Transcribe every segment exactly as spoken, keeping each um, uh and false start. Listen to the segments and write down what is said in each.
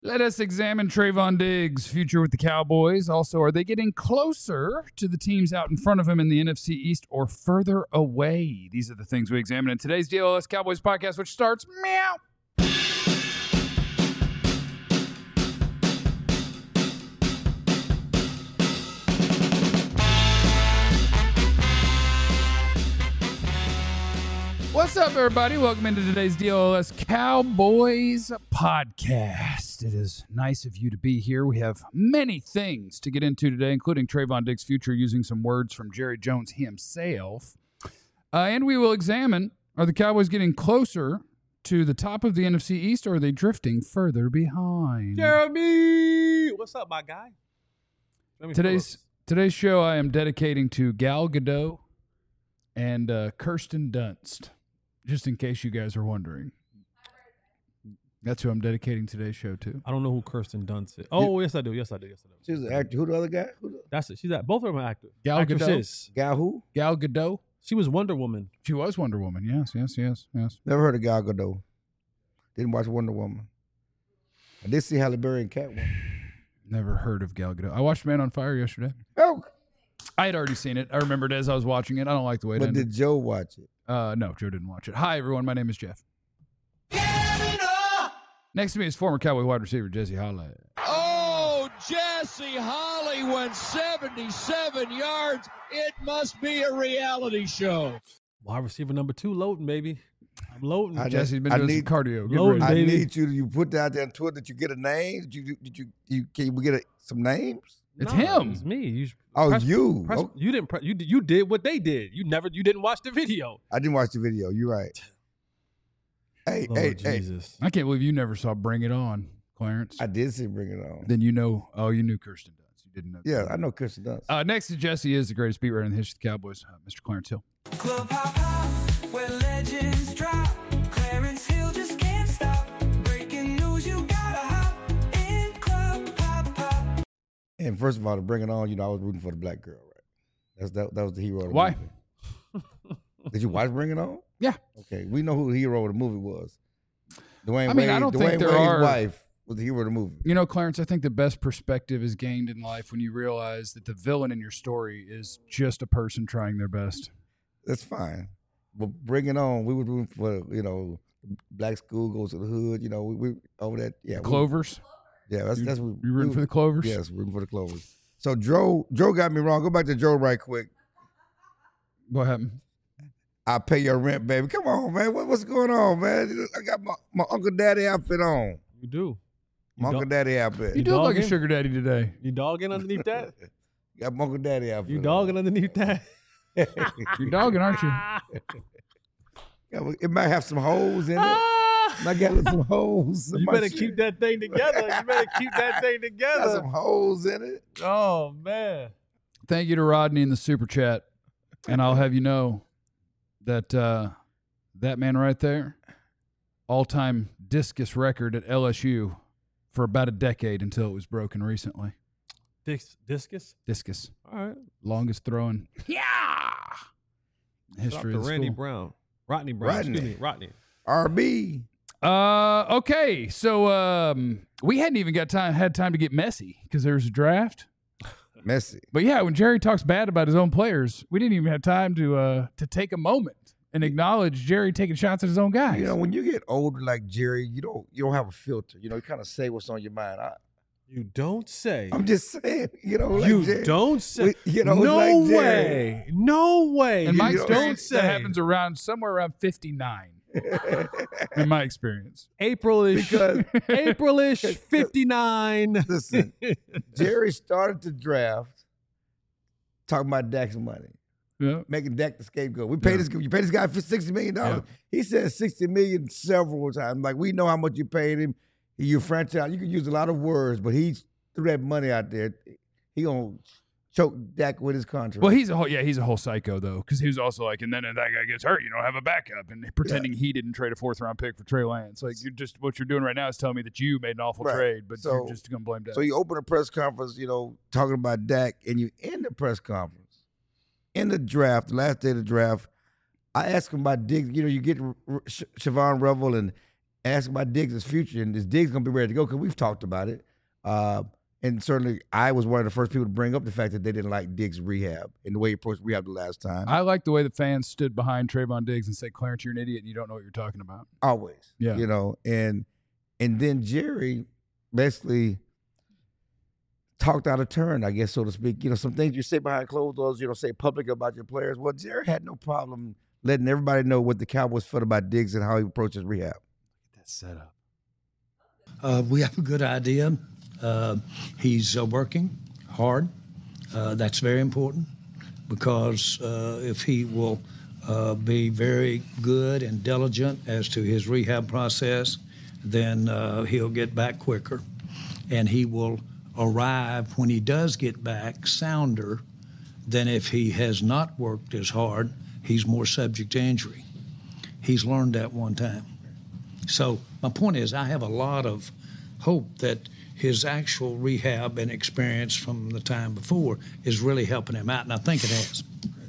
Let us examine Trayvon Diggs' future with the Cowboys. Also, are they getting closer to the teams out in front of him in the N F C East or further away? These are the things we examine in today's D L S Cowboys podcast, which starts meow. What's up, everybody? Welcome into today's D L S Cowboys podcast. It is nice of you to be here. We have many things to get into today, including Trayvon Diggs' future, using some words from Jerry Jones himself. Uh, and we will examine, are the Cowboys getting closer to the top of the N F C East, or are they drifting further behind? Jeremy! What's up, my guy? Today's today's show I am dedicating to Gal Gadot and uh, Kirsten Dunst. Just in case you guys are wondering. That's who I'm dedicating today's show to. I don't know who Kirsten Dunst is. Oh, yes, I do. Yes, I do. Yes, I do. She's an actor. Who the other guy? Who the... That's it. She's that. Both of them are actors. Gal Actresses. Gadot. Gal who? Gal Gadot. She was Wonder Woman. She was Wonder Woman. Yes, yes, yes, yes. Never heard of Gal Gadot. Didn't watch Wonder Woman. I did see Halle Berry and Catwoman. Never heard of Gal Gadot. I watched Man on Fire yesterday. Oh. I had already seen it. I remembered as I was watching it. I don't like the way it But ended. did Joe watch it? Uh, no, Joe didn't watch it. Hi, everyone. My name is Jeff. Next to me is former Cowboy wide receiver Jesse Holly. Oh, Jesse Holly went seventy-seven yards. It must be a reality show. Wide receiver number two, loading, baby. I'm loading. I Jesse's been I doing need- some cardio. Get Loading, ready. I baby. need you to you put that out there on Twitter that you get a name. Did you did you, you can we get a, some names? It's No, him. It's me. You, Oh, press- you. press- Oh, You didn't. Press, you did- you did what they did. You never. You didn't watch the video. I didn't watch the video. You're right. Hey, Lord hey, hey. Jesus. I can't believe you never saw Bring It On, Clarence. I did see Bring It On. Then you know, oh, you knew Kirsten Dunst. You didn't know. Yeah, I know Kirsten Dunst. Uh, next to Jesse is the greatest beat writer in the history of the Cowboys, uh, Mister Clarence Hill. Club hop hop, where legends drop. Clarence Hill just can't stop. Breaking news, you gotta hop in club hop hop. And first of all, to Bring It On, you know, I was rooting for the black girl, right? That's that, that was the hero of the Why? movie. Did you watch Bring It On? Yeah. Okay, we know who the hero of the movie was. Dwayne I mean, I Wade, don't Dwayne think there Wade's are- wife was the hero of the movie. You know, Clarence, I think the best perspective is gained in life when you realize that the villain in your story is just a person trying their best. That's fine. But Bring It On, we were rooting for, you know, black school goes to the hood, you know, we, we over that. Yeah, we- Clovers? yeah, that's You, that's what you rooting we- for the Clovers? Yes, rooting for the Clovers. So Joe, Joe got me wrong. Go back to Joe right quick. What happened? I'll pay your rent, baby. Come on, man. What, what's going on, man? I got my, my Uncle Daddy outfit on. You do. My You Uncle dog- Daddy outfit. You do look like a dogging? sugar daddy today. You dogging underneath that? Got my Uncle Daddy outfit. You on. dogging underneath that? You're dogging, aren't you? Yeah, well, it might have some holes in it. Ah! Might got some holes. in You my better shit. keep that thing together. You better keep that thing Got together. some holes in it. Oh man. Thank you to Rodney in the super chat. And I'll have you know that uh, that man right there, all-time discus record at L S U for about a decade until it was broken recently. Dis- discus. Discus. All right. Longest throwing. Yeah. History Shout out of to the Randy school. Brown. Rodney Brown. Rodney. Excuse me. Rodney. R B. Uh, okay. So um, we hadn't even got time had time to get messy because there was a draft. Messy. But yeah, when Jerry talks bad about his own players, we didn't even have time to uh to take a moment and acknowledge Jerry taking shots at his own guys. You know, when you get older like Jerry, you don't you don't have a filter. You know, you kind of say what's on your mind. I, You don't say. I'm just saying, you know, like you Jerry. don't say. We- you know, no like Jerry. way. No way. in you my you know, experience, don't say. that happens around somewhere around fifty-nine. In my experience, April-ish. Because- April-ish. fifty-nine. Listen, Jerry started the draft talking about Dak's money, yeah, making Dak the scapegoat. We paid Yeah. this. You paid this guy for sixty million dollars. He said sixty million several times. Like we know how much you paid him. You franchise. You can use a lot of words, but he threw that money out there. He gonna choke Dak with his contract. well, he's a whole yeah, he's a whole psycho though, because he was also like, and then if that guy gets hurt, you don't have a backup, and pretending he didn't trade a fourth round pick for Trey Lance. Like you're just what you're doing right now is telling me that you made an awful Right. trade, but So- you're just gonna blame Dak. So you open a press conference, you know, talking about Dak, and you end the press conference. In the draft, the last day of the draft, I asked him about Diggs. You know, you get R- R- Sh- Siobhan Revel and ask about Diggs' future, and is Diggs going to be ready to go? Because we've talked about it. Uh, and certainly I was one of the first people to bring up the fact that they didn't like Diggs' rehab and the way he approached rehab the last time. I like the way the fans stood behind Trayvon Diggs and said, Clarence, you're an idiot and you don't know what you're talking about. Always. Yeah. You know, and and then Jerry basically talked out of turn, I guess, so to speak. You know, some things you say behind closed doors, you don't say public about your players. Well, Jerry had no problem letting everybody know what the Cowboys felt about Diggs and how he approaches rehab. That's set up. Uh, we have a good idea. Uh, he's uh, working hard. Uh, that's very important because uh, if he will uh, be very good and diligent as to his rehab process, then uh, he'll get back quicker. And he will arrive when he does get back sounder than if he has not worked as hard. He's more subject to injury. He's learned that one time. So my point is I have a lot of hope that his actual rehab and experience from the time before is really helping him out, and I think it has.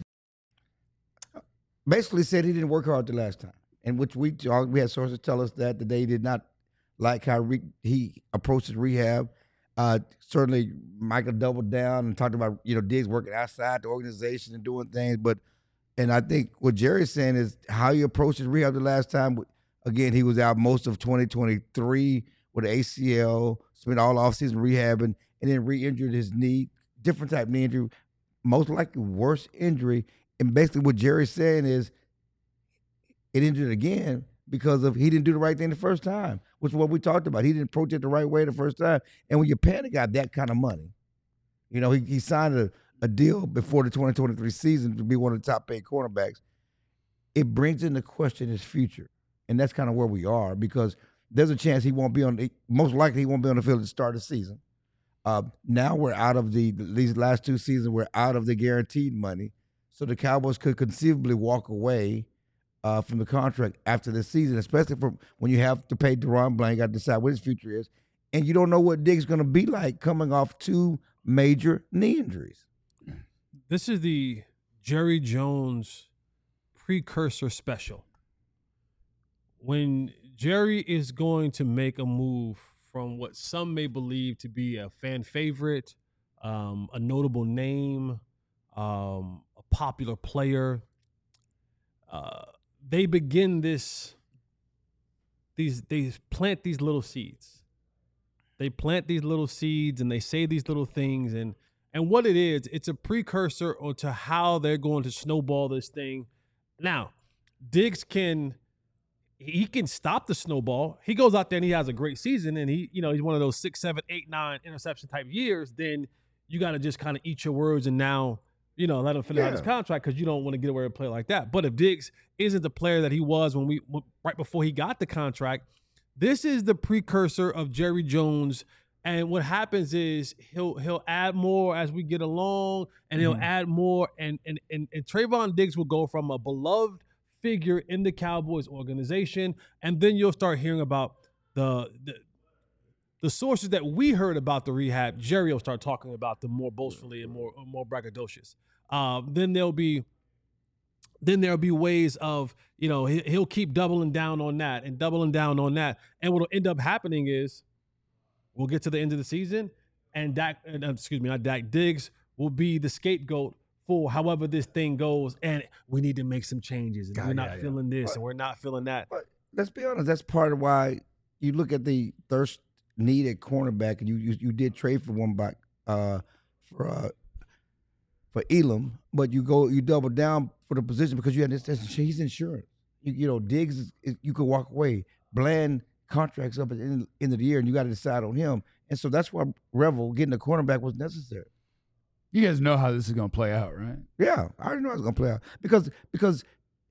Basically said he didn't work hard the last time, and which we we had sources tell us that that they did not like how re, he approached his rehab. Uh, certainly, Michael doubled down and talked about you know Diggs working outside the organization and doing things, but and I think what Jerry's saying is how he approached his rehab the last time. Again, he was out most of twenty twenty-three with an A C L, spent all offseason rehabbing, and then re-injured his knee, different type of knee injury, most likely worse injury. And basically what Jerry's saying is it injured again because of he didn't do the right thing the first time, which is what we talked about. He didn't approach it the right way the first time. And when you're paying a guy that kind of money, you know, he, he signed a, a deal before the twenty twenty-three season to be one of the top paid cornerbacks. It brings into question his future. And that's kind of where we are because there's a chance he won't be on – most likely he won't be on the field at the start of the season. Uh, now we're out of the – these last two seasons, we're out of the guaranteed money. So the Cowboys could conceivably walk away uh, from the contract after this season, especially for when you have to pay Deron Blank, got to decide what his future is. And you don't know what Diggs is going to be like coming off two major knee injuries. This is the Jerry Jones precursor special. When Jerry is going to make a move from what some may believe to be a fan favorite, um, a notable name, um, a popular player, uh, they begin this, these, they plant these little seeds. They plant these little seeds and they say these little things. And, and what it is, it's a precursor to how they're going to snowball this thing. Now, Diggs can... He can stop the snowball. He goes out there and he has a great season and he, you know, he's one of those six, seven, eight, nine interception type years. Then you got to just kind of eat your words and now, you know, let him finish Yeah. out his contract because you don't want to get away with a play like that. But if Diggs isn't the player that he was when we, right before he got the contract, this is the precursor of Jerry Jones. And what happens is he'll, he'll add more as we get along and he'll Mhm. add more. And, and, and, and Trayvon Diggs will go from a beloved figure in the Cowboys organization, and then you'll start hearing about the, the the sources that we heard about the rehab. Jerry will start talking about them more boastfully and more more braggadocious. Um, then there'll be then there'll be ways of you know he, he'll keep doubling down on that and doubling down on that, and what'll end up happening is we'll get to the end of the season, and Dak, uh, excuse me, not Dak, Diggs will be the scapegoat for however this thing goes, and we need to make some changes, and God, we're not yeah, yeah. feeling this, But- and we're not feeling that. But let's be honest, that's part of why you look at the thirst need at cornerback, and you you, you did trade for one back uh, for uh, for Elam, but you go you double down for the position because you had this. this he's insurance. You, you know, Diggs, is, is, you could walk away. Bland contracts up at the end, end of the year, and you got to decide on him. And so that's why Revel getting a cornerback was necessary. You guys know how this is going to play out, right? Yeah, I already know how it's gonna play out because because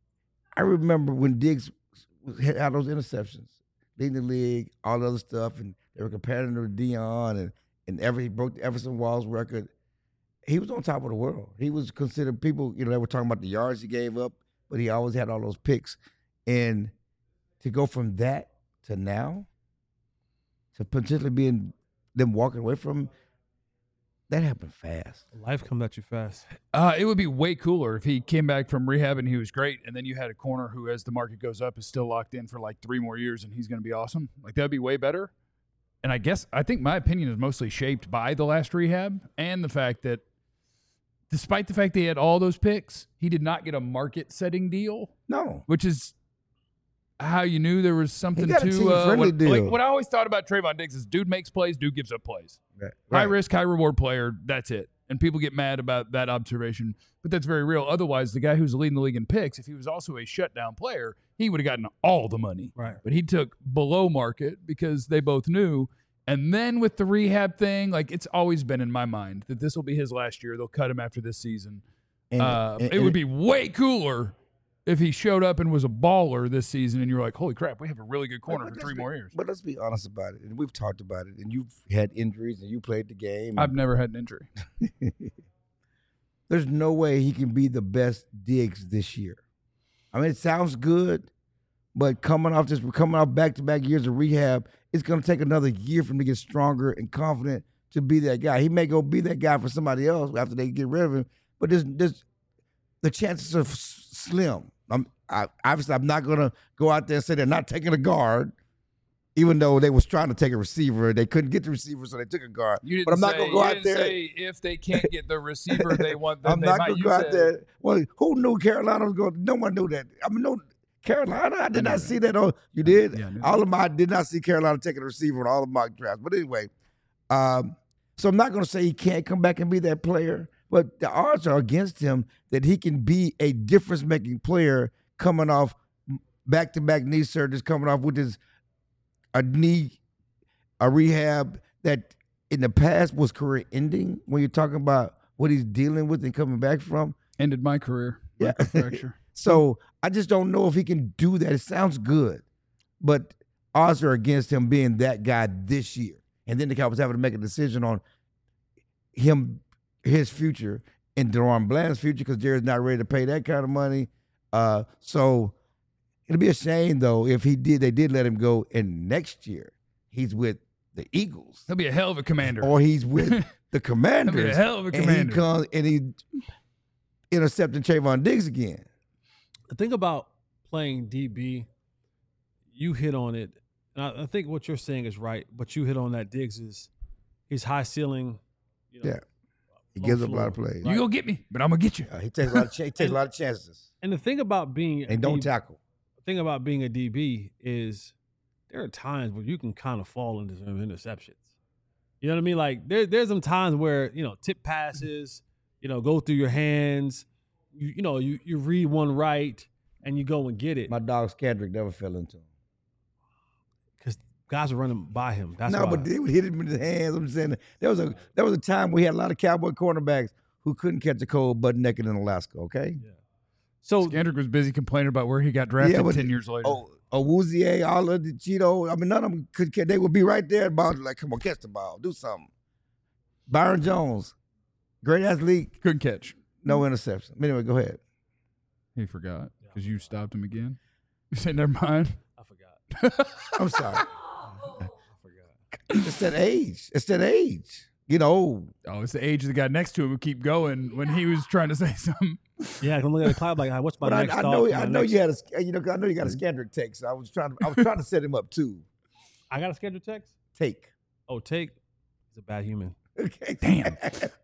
I remember when Diggs had those interceptions, leading the league, all the other stuff, and they were comparing him to Deion, and and every he broke the Everson Walls record. He was on top of the world. He was considered people, you know, they were talking about the yards he gave up, but he always had all those picks. And to go from that to now, to potentially being them walking away from him, that happened fast. Life comes at you fast. Uh, it would be way cooler if he came back from rehab and he was great, and then you had a corner who, as the market goes up, is still locked in for like three more years, and he's going to be awesome. Like, that'd be way better. And I guess I think my opinion is mostly shaped by the last rehab and the fact that, despite the fact that he had all those picks, he did not get a market-setting deal, No. which is how you knew there was something got a to team-friendly uh, what, deal. like what I always thought about Trayvon Diggs is dude makes plays, dude gives up plays. Right. High risk, high reward player. That's it. And people get mad about that observation, but that's very real. Otherwise, the guy who's leading the league in picks, if he was also a shutdown player, he would have gotten all the money. Right. But he took below market because they both knew. And then with the rehab thing, like it's always been in my mind that this will be his last year. They'll cut him after this season. And, uh, and- it would be way cooler if he showed up and was a baller this season and you're like, holy crap, we have a really good corner But for let's three be- more years. But let's be honest about it. And we've talked about it. And you've had injuries and you played the game. I've never had an injury. There's no way he can be the best Diggs this year. I mean, it sounds good, but coming off this, coming off back-to-back years of rehab, it's going to take another year for him to get stronger and confident to be that guy. He may go be that guy for somebody else after they get rid of him, but there's, there's the chances are s- slim. I'm, I, obviously, I'm not going to go out there and say they're not taking a guard, even though they was trying to take a receiver. They couldn't get the receiver, so they took a guard. You didn't But I'm not say- going to go you out didn't there. say if they can't get the receiver they want, then I'm they not might. going to You go out said- there. Well, who knew Carolina was going? No one knew that. I mean, no, Carolina. I did knew not that. see that. Oh, you did. Yeah, I knew all of my I did not see Carolina taking a receiver in all of my drafts. But anyway, um, so I'm not going to say he can't come back and be that player. But the odds are against him that he can be a difference-making player coming off back-to-back knee surgeries, coming off with his a knee, a rehab that in the past was career-ending. When you're talking about what he's dealing with and coming back from. Ended my career. Yeah. Fracture. So I just don't know if he can do that. It sounds good, but odds are against him being that guy this year. And then the Cowboys having to make a decision on him, his future, and Deron Bland's future because Jared's not ready to pay that kind of money. Uh, so it'll be a shame though if he did. They did let him go, and next year he's with the Eagles He'll be a hell of a commander. or he's with the Commanders. He'll be a hell of a and he commander. comes and he intercepting Trayvon Diggs again. The thing about playing D B, you hit on it. And I, I think what you're saying is right, but you hit on that Diggs is his high ceiling. You know, Yeah. He low gives up a floor, lot of plays. You go get me, but I'm gonna get you. Uh, he takes a lot of ch- he takes a lot of chances And the thing about being and don't a D B tackle. the thing about being a D B is there are times where you can kind of fall into some interceptions. You know what I mean? Like there, there's some times where, you know, tip passes, you know, go through your hands, you, you know, you, you read one right and you go and get it. My dog Skandrick never fell into him. Because guys are running by him. That's no, why. but they would hit him in the hands. I'm saying there was a there was a time we had a lot of Cowboy cornerbacks who couldn't catch a cold butt naked in Alaska. Okay. so Skandrick was busy complaining about where he got drafted Yeah, but- ten years later. Oh, Awuzie, all of the Cheeto. I mean, none of them could catch. They would be right there about like, come on, catch the ball, do something. Byron Jones, great athlete, Couldn't catch. no interception. Anyway, go ahead. He forgot because you stopped him again. You said, never mind. I forgot. I'm sorry. I forgot. It's that age. It's that age. You know, Oh, it's the age of the guy next to him who keep going when he was trying to say something. Yeah, I'm looking at the cloud like, what's my but I, next I thought know, for my I know next- you had a, you know, I know you got a Skandrick take. So I was trying to, I was trying to set him up too. I got a scheduled text? Take. Oh, take. He's a bad human. Okay. Damn.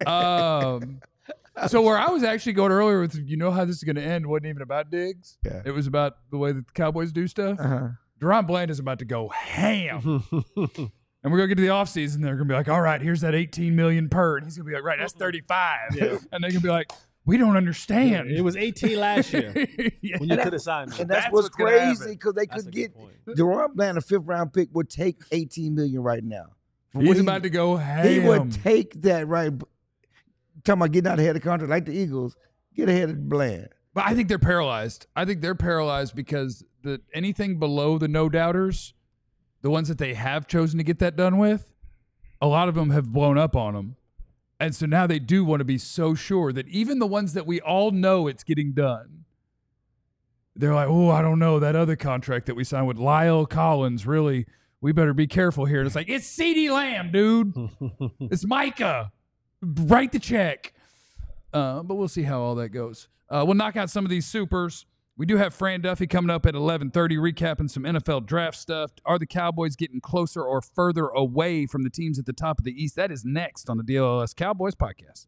Um, so where I was actually going earlier with, you know how this is going to end, wasn't even about Diggs. Yeah. It was about the way that the Cowboys do stuff. Uh-huh. Deron Bland is about to go ham. And we're going to get to the offseason. They're going to be like, all right, here's that eighteen million per. And he's going to be like, right, that's thirty-five. Yeah. And they're going to be like, we don't understand. It was eighteen last year Yeah. when you could have signed me. And that's, That's what's what's gonna crazy happen. because they That's could a good get point. Deron Bland, a fifth round pick, would take eighteen million right now. For He's what he- about to go ham. He would take that right. Talking about getting out ahead of the contract like the Eagles, get ahead of Bland. But I think they're paralyzed. I think they're paralyzed because the anything below the no doubters, the ones that they have chosen to get that done with, a lot of them have blown up on them. And so now they do want to be so sure that even the ones that we all know it's getting done, they're like, oh, I don't know, that other contract that we signed with Lyle Collins, really, we better be careful here. And it's like, it's CeeDee Lamb, dude. It's Micah. write the check. Uh, but we'll see how all that goes. Uh, we'll knock out some of these supers. We do have Fran Duffy coming up at eleven thirty, recapping some N F L draft stuff. Are the Cowboys getting closer or further away from the teams at the top of the East? That is next on the D L L S Cowboys podcast.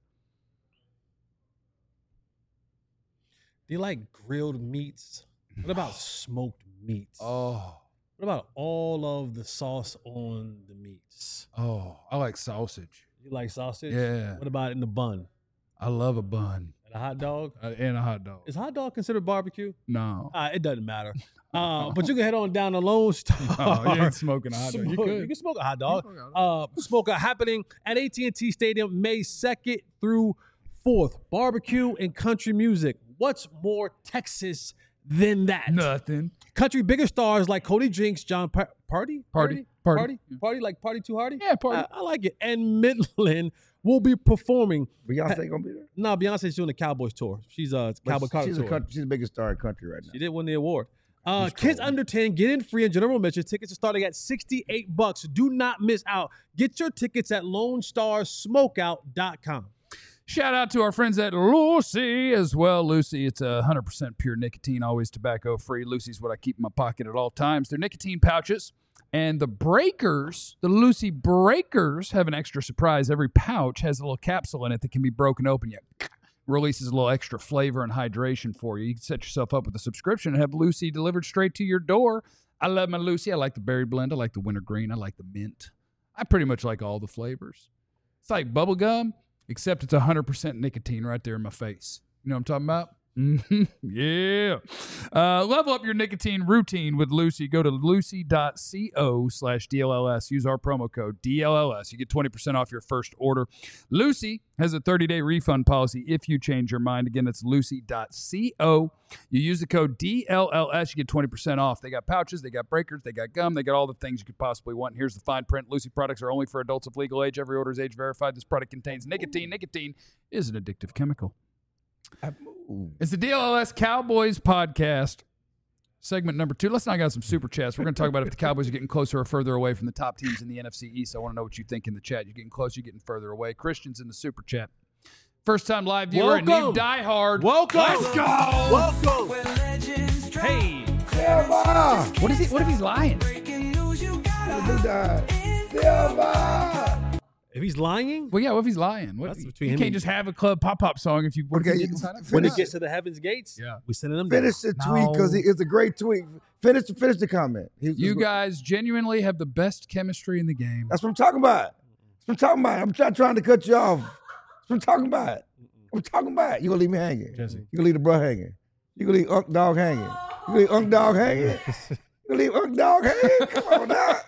Do you like grilled meats? What about smoked meats? Oh, What about all of the sauce on the meats? oh, I like sausage. You like sausage? Yeah. What about in the bun? I love a bun And a hot dog? uh, and a hot dog. Is hot dog considered barbecue? No. Uh, it doesn't matter. Uh, but you can head on down to Lone Star. Oh, you ain't smoking a hot dog. You Smoke- could. You can smoke a hot dog. You can smoke a hot Uh, smoke a happening at A T and T Stadium May second through fourth. Barbecue and country music. What's more Texas than that? Nothing. Country bigger stars like Cody Jinks, John pa- Party? Party. Party? Party. Party? Party like Party Too Hardy? Yeah, Party. I, I like it. And Midland will be performing. Beyonce gonna be there. No, Beyonce's doing the Cowboys tour. She's a But Cowboy Carter she's tour. a country, she's the biggest star in country right now. She did win the award. Uh, She's kids cold. under ten, get in free and general admission. Tickets are starting at sixty-eight bucks. Do not miss out. Get your tickets at lone star smokeout dot com. Shout out to our friends at Lucy as well. Lucy, it's a one hundred percent pure nicotine, always tobacco free. Lucy's what I keep in my pocket at all times. They're nicotine pouches. And the breakers, the Lucy breakers, have an extra surprise. Every pouch has a little capsule in it that can be broken open. You releases a little extra flavor and hydration for you. You can set yourself up with a subscription and have Lucy delivered straight to your door. I love my Lucy. I like the berry blend. I like the wintergreen. I like the mint. I pretty much like all the flavors. It's like bubble gum, except it's one hundred percent nicotine right there in my face. You know what I'm talking about? Mm-hmm. Yeah. Uh, level up your nicotine routine with Lucy. Go to lucy.co slash DLLS. Use our promo code D L L S. You get twenty percent off your first order. Lucy has a thirty-day refund policy if you change your mind. Again, it's lucy.co. You use the code D L L S, you get twenty percent off. They got pouches, they got breakers, they got gum, they got all the things you could possibly want. Here's the fine print. Lucy products are only for adults of legal age. Every order is age verified. This product contains nicotine. Nicotine is an addictive chemical. It's the D L L S Cowboys podcast, segment number two. Let's knock out some super chats. We're going to talk about if the Cowboys are getting closer or further away from the top teams in the N F C East. I want to know what you think in the chat. You're getting closer, you're getting further away. Christian's in the super chat. First time live viewer and new Welcome. diehard. Welcome. Let's go. Welcome. Where legends drop. Hey. Silva! What is he? What if he's lying? Breaking news, you gotta Who died? Silva! If he's lying, Well, yeah, what if he's lying? What, That's you between you him can't and- just have a club pop-pop song if you, what if Okay, you didn't you- sign up? when finish it gets to the heavens gates, Yeah. we sending them down. Finish the tweet because No. it's a great tweet. Finish, finish the comment. He- You he's- guys genuinely have the best chemistry in the game. That's what I'm talking about. That's what I'm talking about. I'm not trying to cut you off. That's what I'm talking about. I'm talking about. You gonna leave me hanging? Jesse. You gonna leave the bro hanging? You gonna leave Unk Dog hanging? You gonna leave Unk Dog hanging? You gonna leave Unk Dog hanging? Come on now.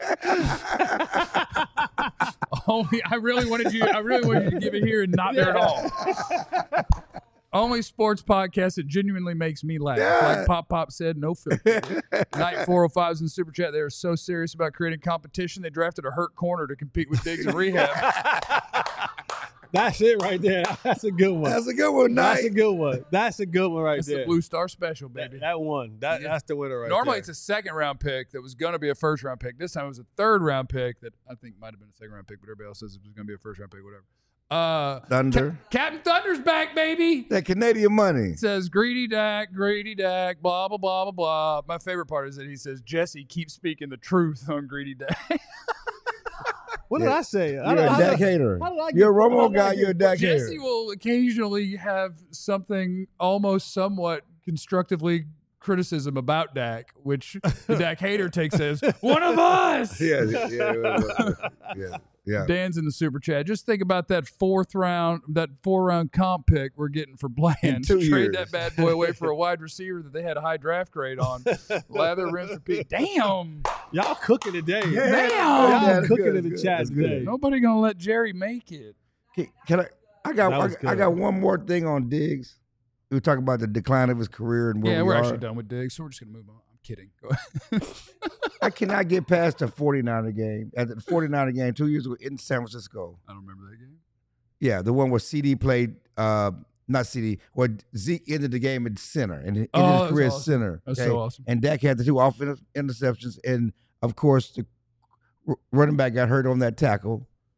Only I really wanted you. I really wanted you to give it here and not there at all. Only sports podcast that genuinely makes me laugh. Yeah. Like Pop Pop said, no filter. Night four oh five is in the super chat. They are so serious about creating competition. They drafted a hurt corner to compete with Diggs and Rehab. That's it right there. That's a good one. That's a good one. That's Night. a good one. That's a good one right It's there. the Blue Star Special, that, baby. that one. That, Yeah. That's the winner right Normally there. it's a second round pick that was going to be a first round pick. This time it was a third round pick that I think might have been a second round pick, but everybody else says it was going to be a first round pick, whatever. Uh, Thunder. Ca- Captain Thunder's back, baby. That Canadian money. It says greedy Dak, greedy Dak, blah blah blah blah blah. My favorite part is that he says Jesse keeps speaking the truth on greedy Dak. What did Yeah. I say? You're I a don't- how Dak did I- hater. how did I get- You're a how Romo did I guy. get- You're a Dak hater. Jesse will occasionally have something almost somewhat constructively criticism about Dak, which the Dak hater takes as one of us. Yeah, yeah, yeah, yeah, yeah. Dan's in the super chat. Just think about that fourth round, that four round comp pick we're getting for Bland. two Trade years. that bad boy away for a wide receiver that they had a high draft grade on. Lather, rinse, repeat. Damn. Y'all cooking today. Yeah, Damn. Y'all that's cooking good, in the that's chat good, that's today. good. Nobody gonna let Jerry make it. Can, can I? I got. That I, was I good. got one more thing on Diggs. We were talking about the decline of his career and where Yeah, we we're are. actually done with Diggs, so we're just gonna move on. I'm kidding. Go ahead. I cannot get past the forty-niner game. At the forty-niner game two years ago in San Francisco. I don't remember that game. Yeah, the one where C D played. Uh, not C D. Where Zeke ended the game at center and ended Oh, his that's career at awesome. center. That's okay? so awesome. And Dak had the two offensive interceptions, and of course the r- running back got hurt on that tackle.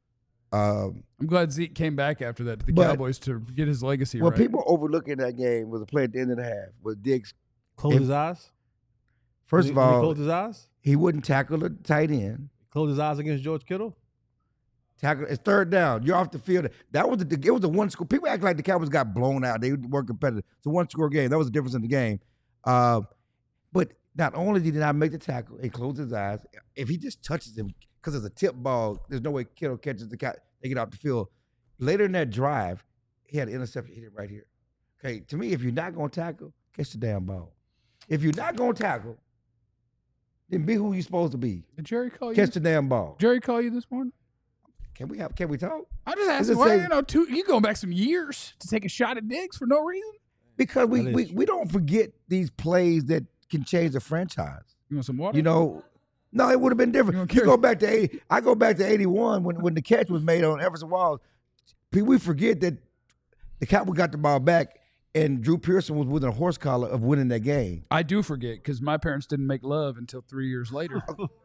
Um, I'm glad Zeke came back after that to the But- Cowboys to get his legacy what right. people overlooking that game was a play at the end of the half where Diggs, Close If- his eyes. first When of he- when he all, closed his eyes. he wouldn't tackle the tight end. Close his eyes against George Kittle. Tackle. It's third down. You're off the field. That was the. It was a one score. People act like the Cowboys got blown out. They weren't competitive. It's a one score game. That was the difference in the game. Uh, but not only did he not make the tackle, he closed his eyes. If he just touches him, because it's a tip ball, there's no way Kittle catches the cat. They get off the field. Later in that drive, he had an interception. Hit it right here. Okay, to me, if you're not going to tackle, catch the damn ball. If you're not going to tackle, then be who you're supposed to be. Did Jerry call you? Catch the damn ball. Jerry call you this morning? Can we have? Can we talk? I just asked Is him, it why, saying- you know, two, you going back some years to take a shot at Diggs for no reason? Because we, That we, is we don't forget these plays that can change the franchise. You want some water? You know, no, it would have been You different. don't You care. go back to eighty. I go back to eighty-one when, when the catch was made on Everson Walls. Pe- We forget that the Cowboys got the ball back and Drew Pearson was within a horse collar of winning that game. I do forget because my parents didn't make love until three years later.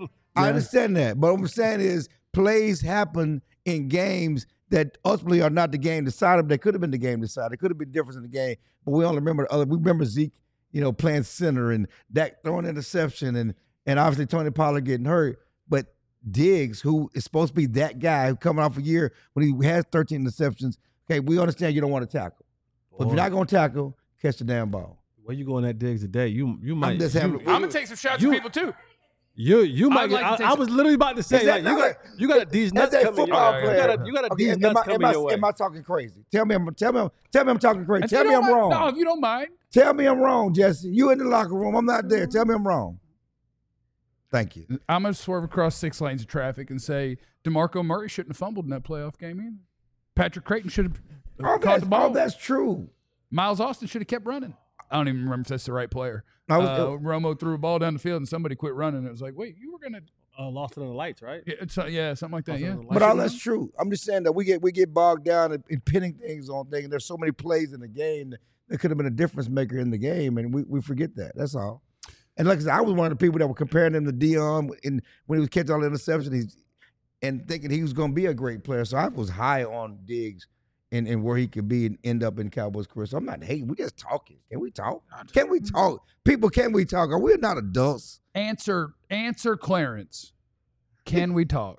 I understand that, but what I'm saying is plays happen in games that ultimately are not the game decided. They could have been the game decided. It could have been different in the game, but we only remember the other. We remember Zeke, you know, playing center and Dak throwing interception, and and obviously Tony Pollard getting hurt. But Diggs, who is supposed to be that guy who coming off a year when he has thirteen interceptions, okay, we understand you don't want to tackle, but if you're not going to tackle, catch the damn ball. Where you going at Diggs today? You you might. I'm just you, having. I'm going to take some shots You- at people too. You you might. I'd Get, like to I, take I some- was literally about to say Is that like, you not got a- you got these That's nuts a coming your football way. player. You got you got Okay, these am nuts I- coming am I- your way. Am I talking crazy? Tell me, I'm tell me, I'm- tell me I'm talking crazy. And Tell you me don't I'm mind- wrong. No, if you don't mind. Tell me I'm wrong, Jesse. You in the locker room. I'm not there. Tell me I'm wrong. Thank you. I'm going to swerve across six lanes of traffic and say DeMarco Murray shouldn't have fumbled in that playoff game either. Patrick Creighton should have All caught that's, the ball. all that's true. Miles Austin should have kept running. I don't even remember if that's the right player. I was- uh, Romo threw a ball down the field and somebody quit running. It was like, wait, you were going to Uh, lost it on the lights, right? yeah, it's, uh, yeah, something like that. Lost it Yeah. on the lights. But all that's true. I'm just saying that we get we get bogged down in, in pinning things on things. There's so many plays in the game that, that could have been a difference maker in the game, and we, we forget that. That's all. And like I said, I was one of the people that were comparing him to Dion in, when he was catching all the interceptions, he's, and thinking he was going to be a great player. So I was high on Diggs and, and where he could be and end up in Cowboys' career. So I'm not hating. We just talking. Can we talk? Can we talk? People, can we talk? Are we not adults? Answer, answer, Clarence. Can we talk?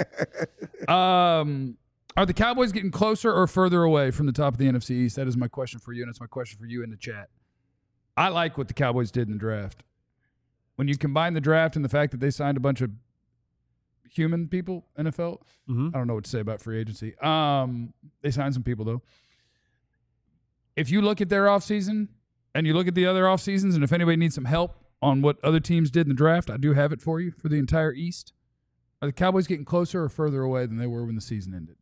um, are the Cowboys getting closer or further away from the top of the N F C East? That is my question for you, and it's my question for you in the chat. I like what the Cowboys did in the draft. When you combine the draft and the fact that they signed a bunch of human people, N F L, Mm-hmm. I don't know what to say about free agency. Um, they signed some people, though. If you look at their offseason and you look at the other off seasons, and if anybody needs some help on what other teams did in the draft, I do have it for you for the entire East. Are the Cowboys getting closer or further away than they were when the season ended?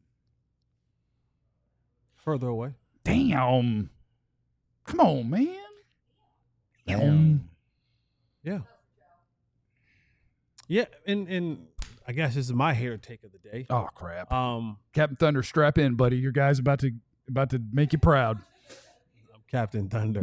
Further away. Damn. Come on, man. Damn. Yeah. Yeah, and and I guess this is my hair take of the day. Oh, crap. Um, Captain Thunder, strap in, buddy. Your guy's about to about to make you proud. I'm Captain Thunder.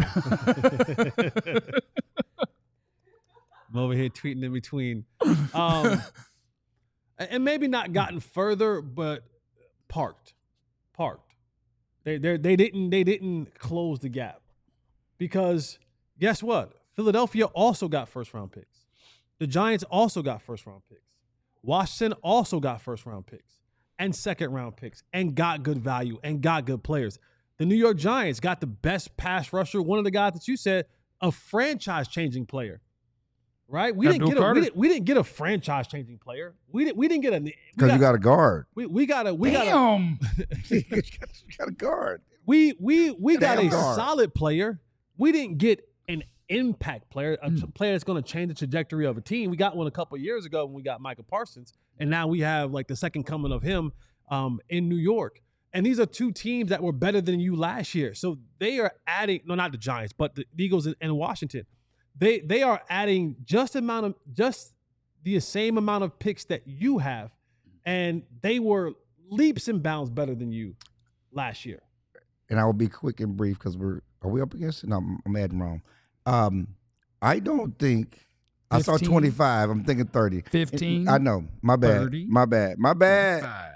I'm over here tweeting in between. Um, and maybe not gotten further, but parked. Parked. They they they didn't they didn't close the gap. Because guess what? Philadelphia also got first round picks. The Giants also got first round picks. Washington also got first round picks and second round picks and got good value and got good players. The New York Giants got the best pass rusher, one of the guys that you said, a franchise changing player. Right? We didn't Abdul get a Carter. we didn't, we didn't get a franchise changing player. We didn't we didn't get a we Because you got a guard. we, we got a we got a Damn. you got a guard. we we we got Damn a guard. solid player. We didn't get an impact player, a t- player that's going to change the trajectory of a team. We got one a couple of years ago when we got Michael Parsons, and now we have like the second coming of him um, in New York. And these are two teams that were better than you last year. So they are adding, no, not the Giants, but the Eagles and, and Washington. They they are adding just amount of just the same amount of picks that you have, and they were leaps and bounds better than you last year. And I will be quick and brief because we're are we up against it? No, I'm, I'm adding wrong. Um, I don't think I saw fifteen? twenty-five. I'm thinking thirty. fifteen? I know. My bad. thirty? My bad. My bad. Five.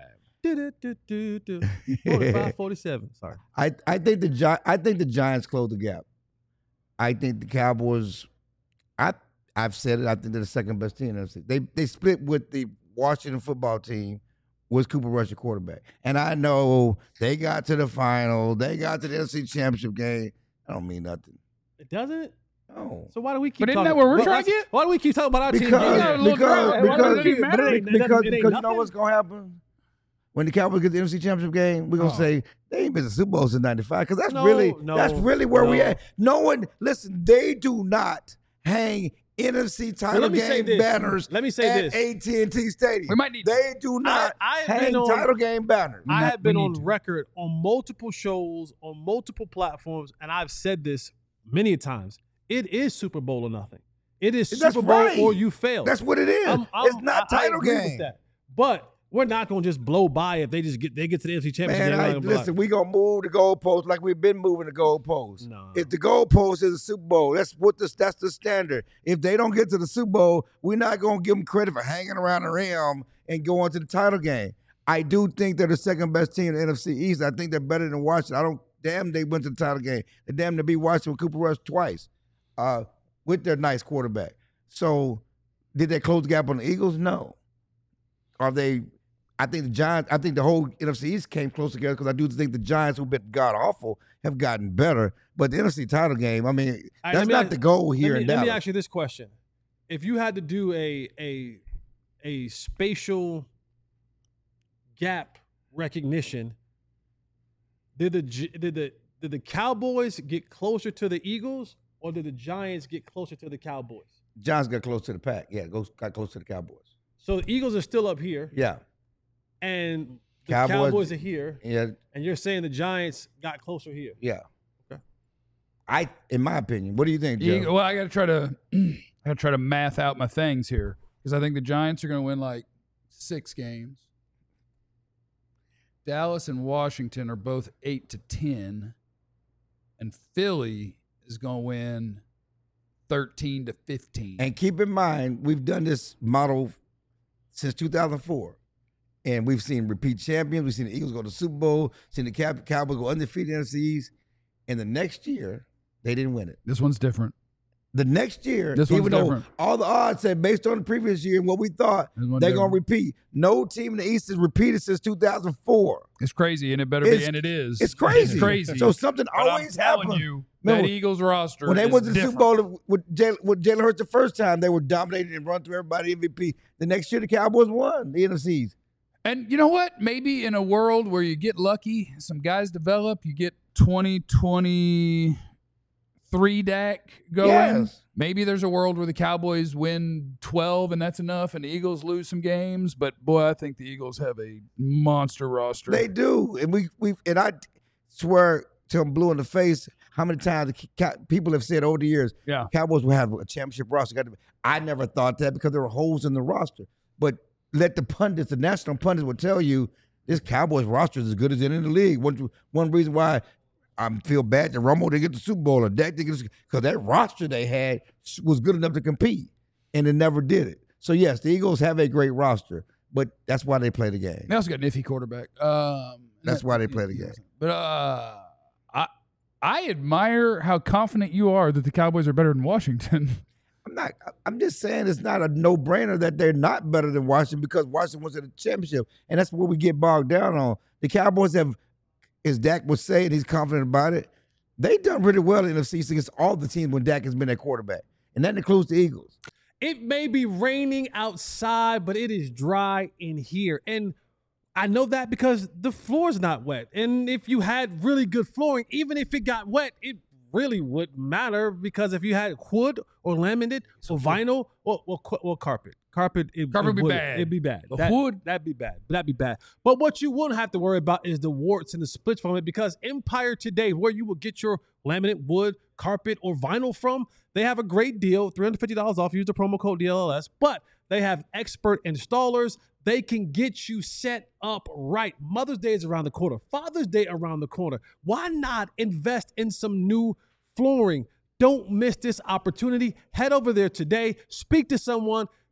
forty-five forty-seven. Sorry. I, I think the Gi- I think the Giants close the gap. I think the Cowboys. I I've said it. I think they're the second best team in the N F C. They they split with the Washington football team. Was Cooper Rush a quarterback? And I know they got to the final. They got to the N F C Championship game. I don't mean nothing. It doesn't? No. So why do we keep But isn't talking? that where we're well, trying to that's- get? Why do we keep talking about our Because, team? got a because, little because, crowd. because, Why does it even matter? because, It ain't- it ain't because you know nothing? what's going to happen? When the Cowboys get the N F C Championship game, we're going to Oh. say, they ain't been to the Super Bowl since ninety-five because that's No, really no, that's really where we no. at. No one, listen, they do not hang N F C title let me say game this. banners Let me say at this. A T and T Stadium. We might need They do not I have hang been on- title game banners. I not- have been we on need to. record on multiple shows, on multiple platforms, and I've said this many times. It is Super Bowl or nothing. It is That's Super Bowl right. or you fail. That's what it is. I'm- I'm- it's not I- I title agree with game. that. But we're not going to just blow by if they just get they get to the N F C Championship Man, game. I, We're not gonna be listen, we gonna move the goalposts like we've been moving the goalposts. No. If the goalpost is a Super Bowl, that's what the, that's the standard. If they don't get to the Super Bowl, we're not gonna give them credit for hanging around the rim and going to the title game. I do think they're the second best team in the N F C East. I think they're better than Washington. I don't damn they went to the title game. They damn to beat Washington with Cooper Rush twice, uh, with their nice quarterback. So, did they close the gap on the Eagles? No. Are they? I think the Giants, I think the whole N F C East came close together because I do think the Giants, who've been god awful, have gotten better. But the N F C title game, I mean, All right, that's let me not ask- the goal Let here me, in let Dallas. me ask you this question: if you had to do a a a spatial gap recognition, did the Gi- did the did the Cowboys get closer to the Eagles, or did the Giants get closer to the Cowboys? Giants got close to the pack. Yeah, go, got close to the Cowboys. So the Eagles are still up here, Yeah, and the Cowboys- Cowboys, are here, yeah, and you're saying the Giants got closer here. yeah. Okay. I, in my opinion, what do you think, Joe? Eagle- well, I got to try to, I got to try to math out my things here because I think the Giants are going to win like six games. Dallas and Washington are both eight to ten, and Philly is going to win thirteen to fifteen. And keep in mind, we've done this model since two thousand four. And we've seen repeat champions. We've seen the Eagles go to the Super Bowl, seen the Cow- Cowboys go undefeated in the N F C East. And the next year, they didn't win it. This one's different. The next year, This one's even though different. all the odds said based on the previous year and what we thought, This one's they're going to different. repeat. No team in the East has repeated since two thousand four. It's crazy, and it better It's- be, and it is. It's crazy. It's crazy. So something But always I'm telling happens. you, Remember, that Eagles roster When they is went to the different. Super Bowl with Jalen, with Jalen Hurts the first time, they were dominated and run through everybody M V P. The next year, the Cowboys won the N F C East. And you know what? Maybe in a world where you get lucky, some guys develop, you get twenty twenty-three Dak going. Yes. Maybe there's a world where the Cowboys win twelve and that's enough, and the Eagles lose some games. But boy, I think the Eagles have a monster roster. They do, and we we and I swear till I'm blue in the face how many times the Cow- people have said over the years, Yeah. Cowboys will have a championship roster. Got to be- I never thought that because there were holes in the roster. But let the pundits, the national pundits, will tell you this Cowboys roster is as good as any in the league. One one reason why I feel bad that Romo didn't get the Super Bowl or Dak didn't get because that roster they had was good enough to compete, and it never did it. So yes, the Eagles have a great roster, but that's why they play the game. They also got an iffy quarterback. Um, That's why they play the game. But uh, I I admire how confident you are that the Cowboys are better than Washington. I'm not. I'm just saying it's not a no-brainer that they're not better than Washington because Washington was in the championship, and that's what we get bogged down on. The Cowboys have, as Dak was saying, he's confident about it. They done really well in the N F C against all the teams when Dak has been their quarterback, and that includes the Eagles. It may be raining outside, but it is dry in here. And I know that because the floor's not wet. And if you had really good flooring, even if it got wet, it really wouldn't matter because if you had wood or laminate or vinyl or, or, or carpet, carpet, it, Carpet it would be wouldn't. bad. It'd be bad. The That- wood- that'd be bad. That'd be bad. But what you wouldn't have to worry about is the warts and the splits from it because Empire Today, where you will get your laminate, wood, carpet, or vinyl from, they have a great deal, three hundred fifty dollars off. Use the promo code D L L S. But they have expert installers. They can get you set up right. Mother's Day is around the corner. Father's Day around the corner. Why not invest in some new flooring? Don't miss this opportunity. Head over there today. Speak to someone.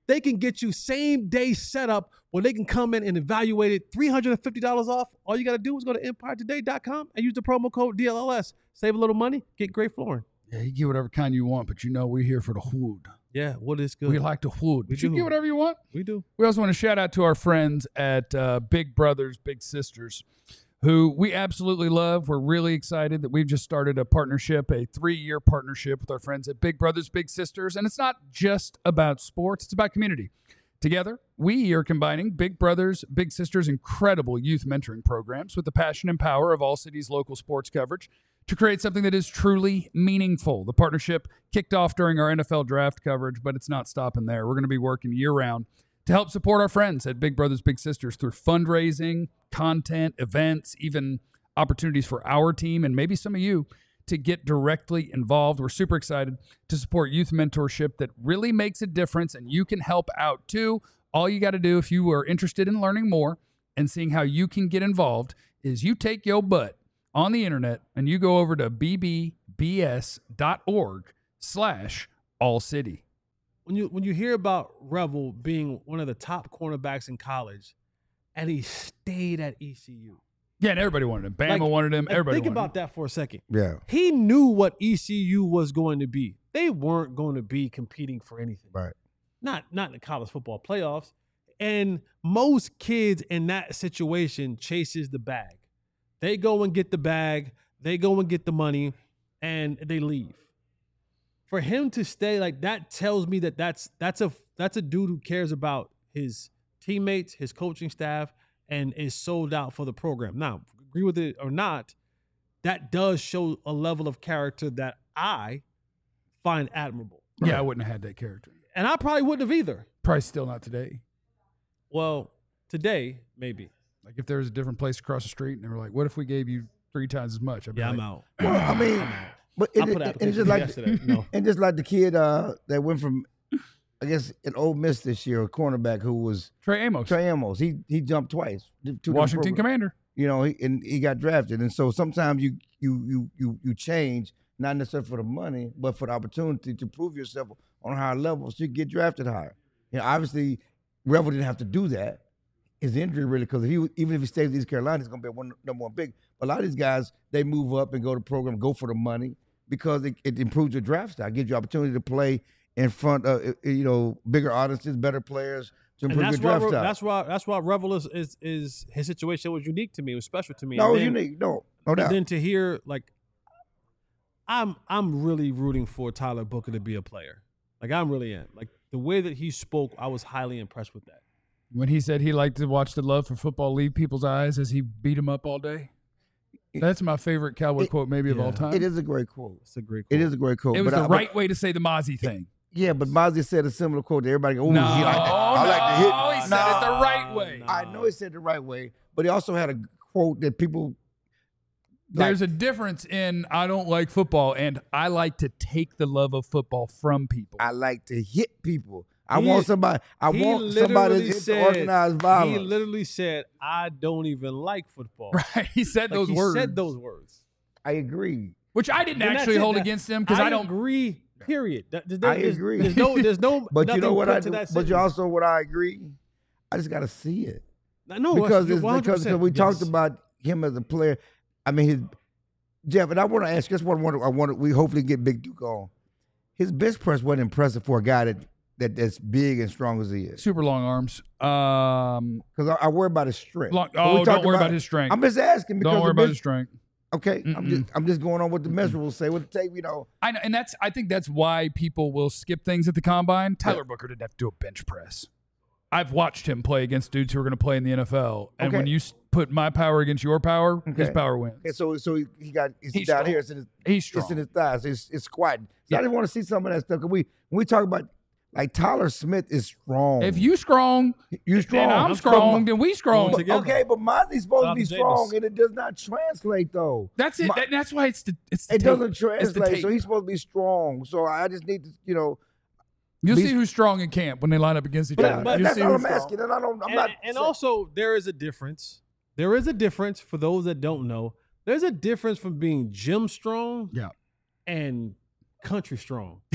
they can get you same day setup where they can come in and evaluate it three hundred fifty dollars off. All you got to do is go to empire today dot com and use the promo code D L L S. Save a little money, get great flooring. Yeah, you get whatever kind you want, but you know we're here for the wood. Yeah, what is good? We like the wood. We But you do. get whatever you want. We do. We also want to shout out to our friends at uh, Big Brothers Big Sisters, who we absolutely love. We're really excited that we've just started a partnership, a three-year partnership with our friends at Big Brothers Big Sisters. And it's not just about sports, it's about community. Together, we are combining Big Brothers Big Sisters' incredible youth mentoring programs with the passion and power of All City's local sports coverage to create something that is truly meaningful. The partnership kicked off during our N F L draft coverage, but it's not stopping there. We're going to be working year-round to help support our friends at Big Brothers Big Sisters through fundraising, content, events, even opportunities for our team and maybe some of you to get directly involved. We're super excited to support youth mentorship that really makes a difference, and you can help out too. All you got to do if you are interested in learning more and seeing how you can get involved is you take your butt on the internet and you go over to bbs.org slash all city. When you when you hear about Revel being one of the top cornerbacks in college, and he stayed at E C U. Yeah, and everybody wanted him. Bama Like- wanted him. like, Everybody think wanted about him. that for a second. Yeah. He knew what E C U was going to be. They weren't going to be competing for anything. Right. Not not in the college football playoffs. And most kids in that situation chases the bag. They go and get the bag, they go and get the money, and they leave. For him to stay, like, that tells me that that's that's a that's a dude who cares about his teammates, his coaching staff, and is sold out for the program. Now, agree with it or not, that does show a level of character that I find admirable. Yeah, I wouldn't have had that character. And I probably wouldn't have either. Probably still not today. Well, today, maybe. Like if there was a different place across the street and they were like, what if we gave you three times as much? I'd be Yeah, like, I'm out. Well, I mean, I'm out. but I it, put it, an and it's just application like yesterday. No. and just like the kid uh, that went from, I guess, an Ole Miss this year, a cornerback who was Trey Amos, Trey Amos. He he jumped twice. to the Washington program. Commander. You know, he, and he got drafted. And so sometimes you you you you you change, not necessarily for the money, but for the opportunity to prove yourself on a higher level so you get drafted higher. You know, obviously, Revel didn't have to do that. His injury really, because if he even if he stays in East Carolina, he's gonna be one number one pick. But a lot of these guys, they move up and go to program, go for the money because it, it improves your draft style, gives you opportunity to play in front of you know bigger audiences, better players to And improve that's your why draft style. that's why that's why Revel is, is is his situation was unique to me. It was special to me. no, And it's then- unique. No, no And doubt. then to hear like, I'm I'm really rooting for Tyler Booker to be a player. Like I'm really am. Like the way that he spoke, I was highly impressed with that. When he said he liked to watch the love for football leave people's eyes as he beat him up all day. That's my favorite Cowboy It- quote maybe of yeah. all time. It is a great quote. It's a great. It quote. is a great quote. It was but the I, right way to say the Mozzie thing. But, yeah, but Mozzie said a similar quote to everybody. Go, "Ooh, No, he like that. I like to hit." no, he said it the right way. no. I know he said it the right way, but he also had a quote that people. There's like, a difference in I don't like football and I like to take the love of football from people. I like to hit people. I He- want somebody. I He want somebody literally to said- organized violence. He literally said, "I don't even like football." Right? He said Like, those he words. said those words. I agree. Which I didn't Then that's actually it. hold That- against him because I, don't. agree. Period. That- there- I there's- agree. There's no. There's no. But you know nothing what put I to do? that But sentence. you also what I agree. I just got to see it no because you're it's, one hundred because percent. we Yes. talked about him as a player. I mean, his Jeff, and I want to ask. That's what I want. I want. We hopefully get Big Duke on. His bench press wasn't impressive for a guy that that that's big and strong as he is. Super long arms. Um, Because I, I worry about his strength. long, But we oh, talked don't worry about his strength. I'm just asking because Don't worry the about bench- his strength. Okay, I'm just I'm just going on what the measurables say. What the tape, you know. I know, and that's I think that's why people will skip things at the combine. Tyler Booker didn't have to do a bench press. I've watched him play against dudes who are going to play in the N F L, and Okay. when you s- put my power against your power, his Okay. power wins. Okay, so so he, he got it's He's down strong. here. It's in his He's strong. it's in his thighs. It's it's squatting. So Yeah. I just want to see some of that stuff. Cause we when we talk about like Tyler Smith is strong. If you strong, you strong, then I'm But strong, Ma- then we strong. Going together. Okay, but Mozzie's supposed Shout to be out to strong, Jameis. and it does not translate though. That's it. Ma- That- that's why it's the it's the It tape. doesn't It's the translate. So tape. he's supposed to be strong. So I just need to, you know. You'll be- see who's strong in camp when they line up against each But- other. but You'll that's see all who's I'm strong. asking, and I don't. I'm and, not. and saying- also, there is a difference. There is a difference for those that don't know. There's a difference from being gym strong Yeah. and country strong.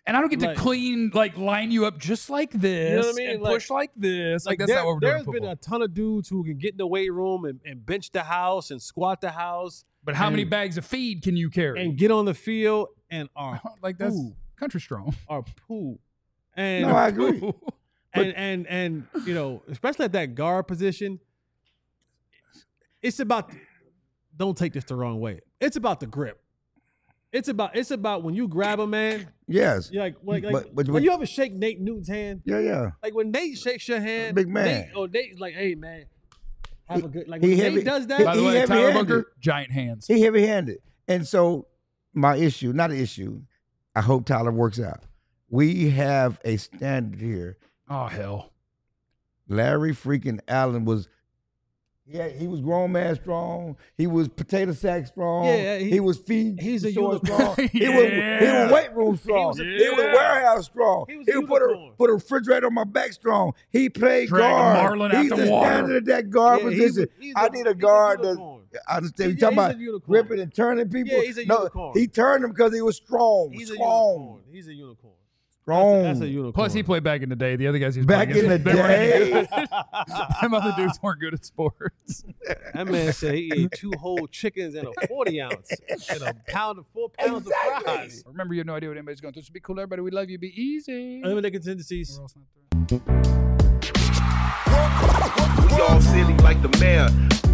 And I don't get Like- to clean, like line you up just like this You know what I mean? and Like- push like this. Like, Like that's there, not what we're doing. there's in been football. a ton of dudes who can get in the weight room and, and bench the house and squat the house But how many and- bags of feed can you carry? and get on the field and are like that's poo, country strong. are poo. And No, I agree. and and and you know, especially at that guard position, it's about. Don't take this the wrong way. It's about the grip. It's about it's about when you grab a man. Yes. You're like like, like But- but- when but- you ever shake Nate Newton's hand. Yeah, yeah. Like when Nate shakes your hand, Big man. Nate, oh, Nate's like, hey man, have a good. Like he when heavy- Nate does that, By the He way, Tyler heavy-handed. Booker, giant hands. He heavy-handed. And so my issue, not an issue, I hope Tyler works out. We have a standard here. Oh hell. Larry freaking Allen was, yeah, he was grown man strong. He was potato sack strong. Yeah, he, he- was feed. he's a short unicorn. strong. He was he Yeah. was weight room strong. was a- He was Yeah. warehouse strong. He He, was a would put a unicorn. put a refrigerator on my back strong. He played Drag a guard. marlin out he's the the water. standard of that guard Yeah, he position. was- he's I a- need a he's a guard that unicorn. I understand. He- You talking yeah, he's about a unicorn. ripping and turning people? Yeah, he's a no, unicorn. he turned them because he was strong. He's a strong. unicorn. He's a unicorn. Strong. That's a unicorn. Plus, he played back in the day. The other guys he was Back playing in the against, they weren't any day. good. Them other dudes weren't good at sports. That man said he ate two whole chickens and a forty ounce and a pound of four pounds Exactly. of fries. Remember, you have no idea what anybody's going through. So be cool, everybody. We love you. Be easy. Eliminate contingencies. Or else not through. We all silly like the mayor.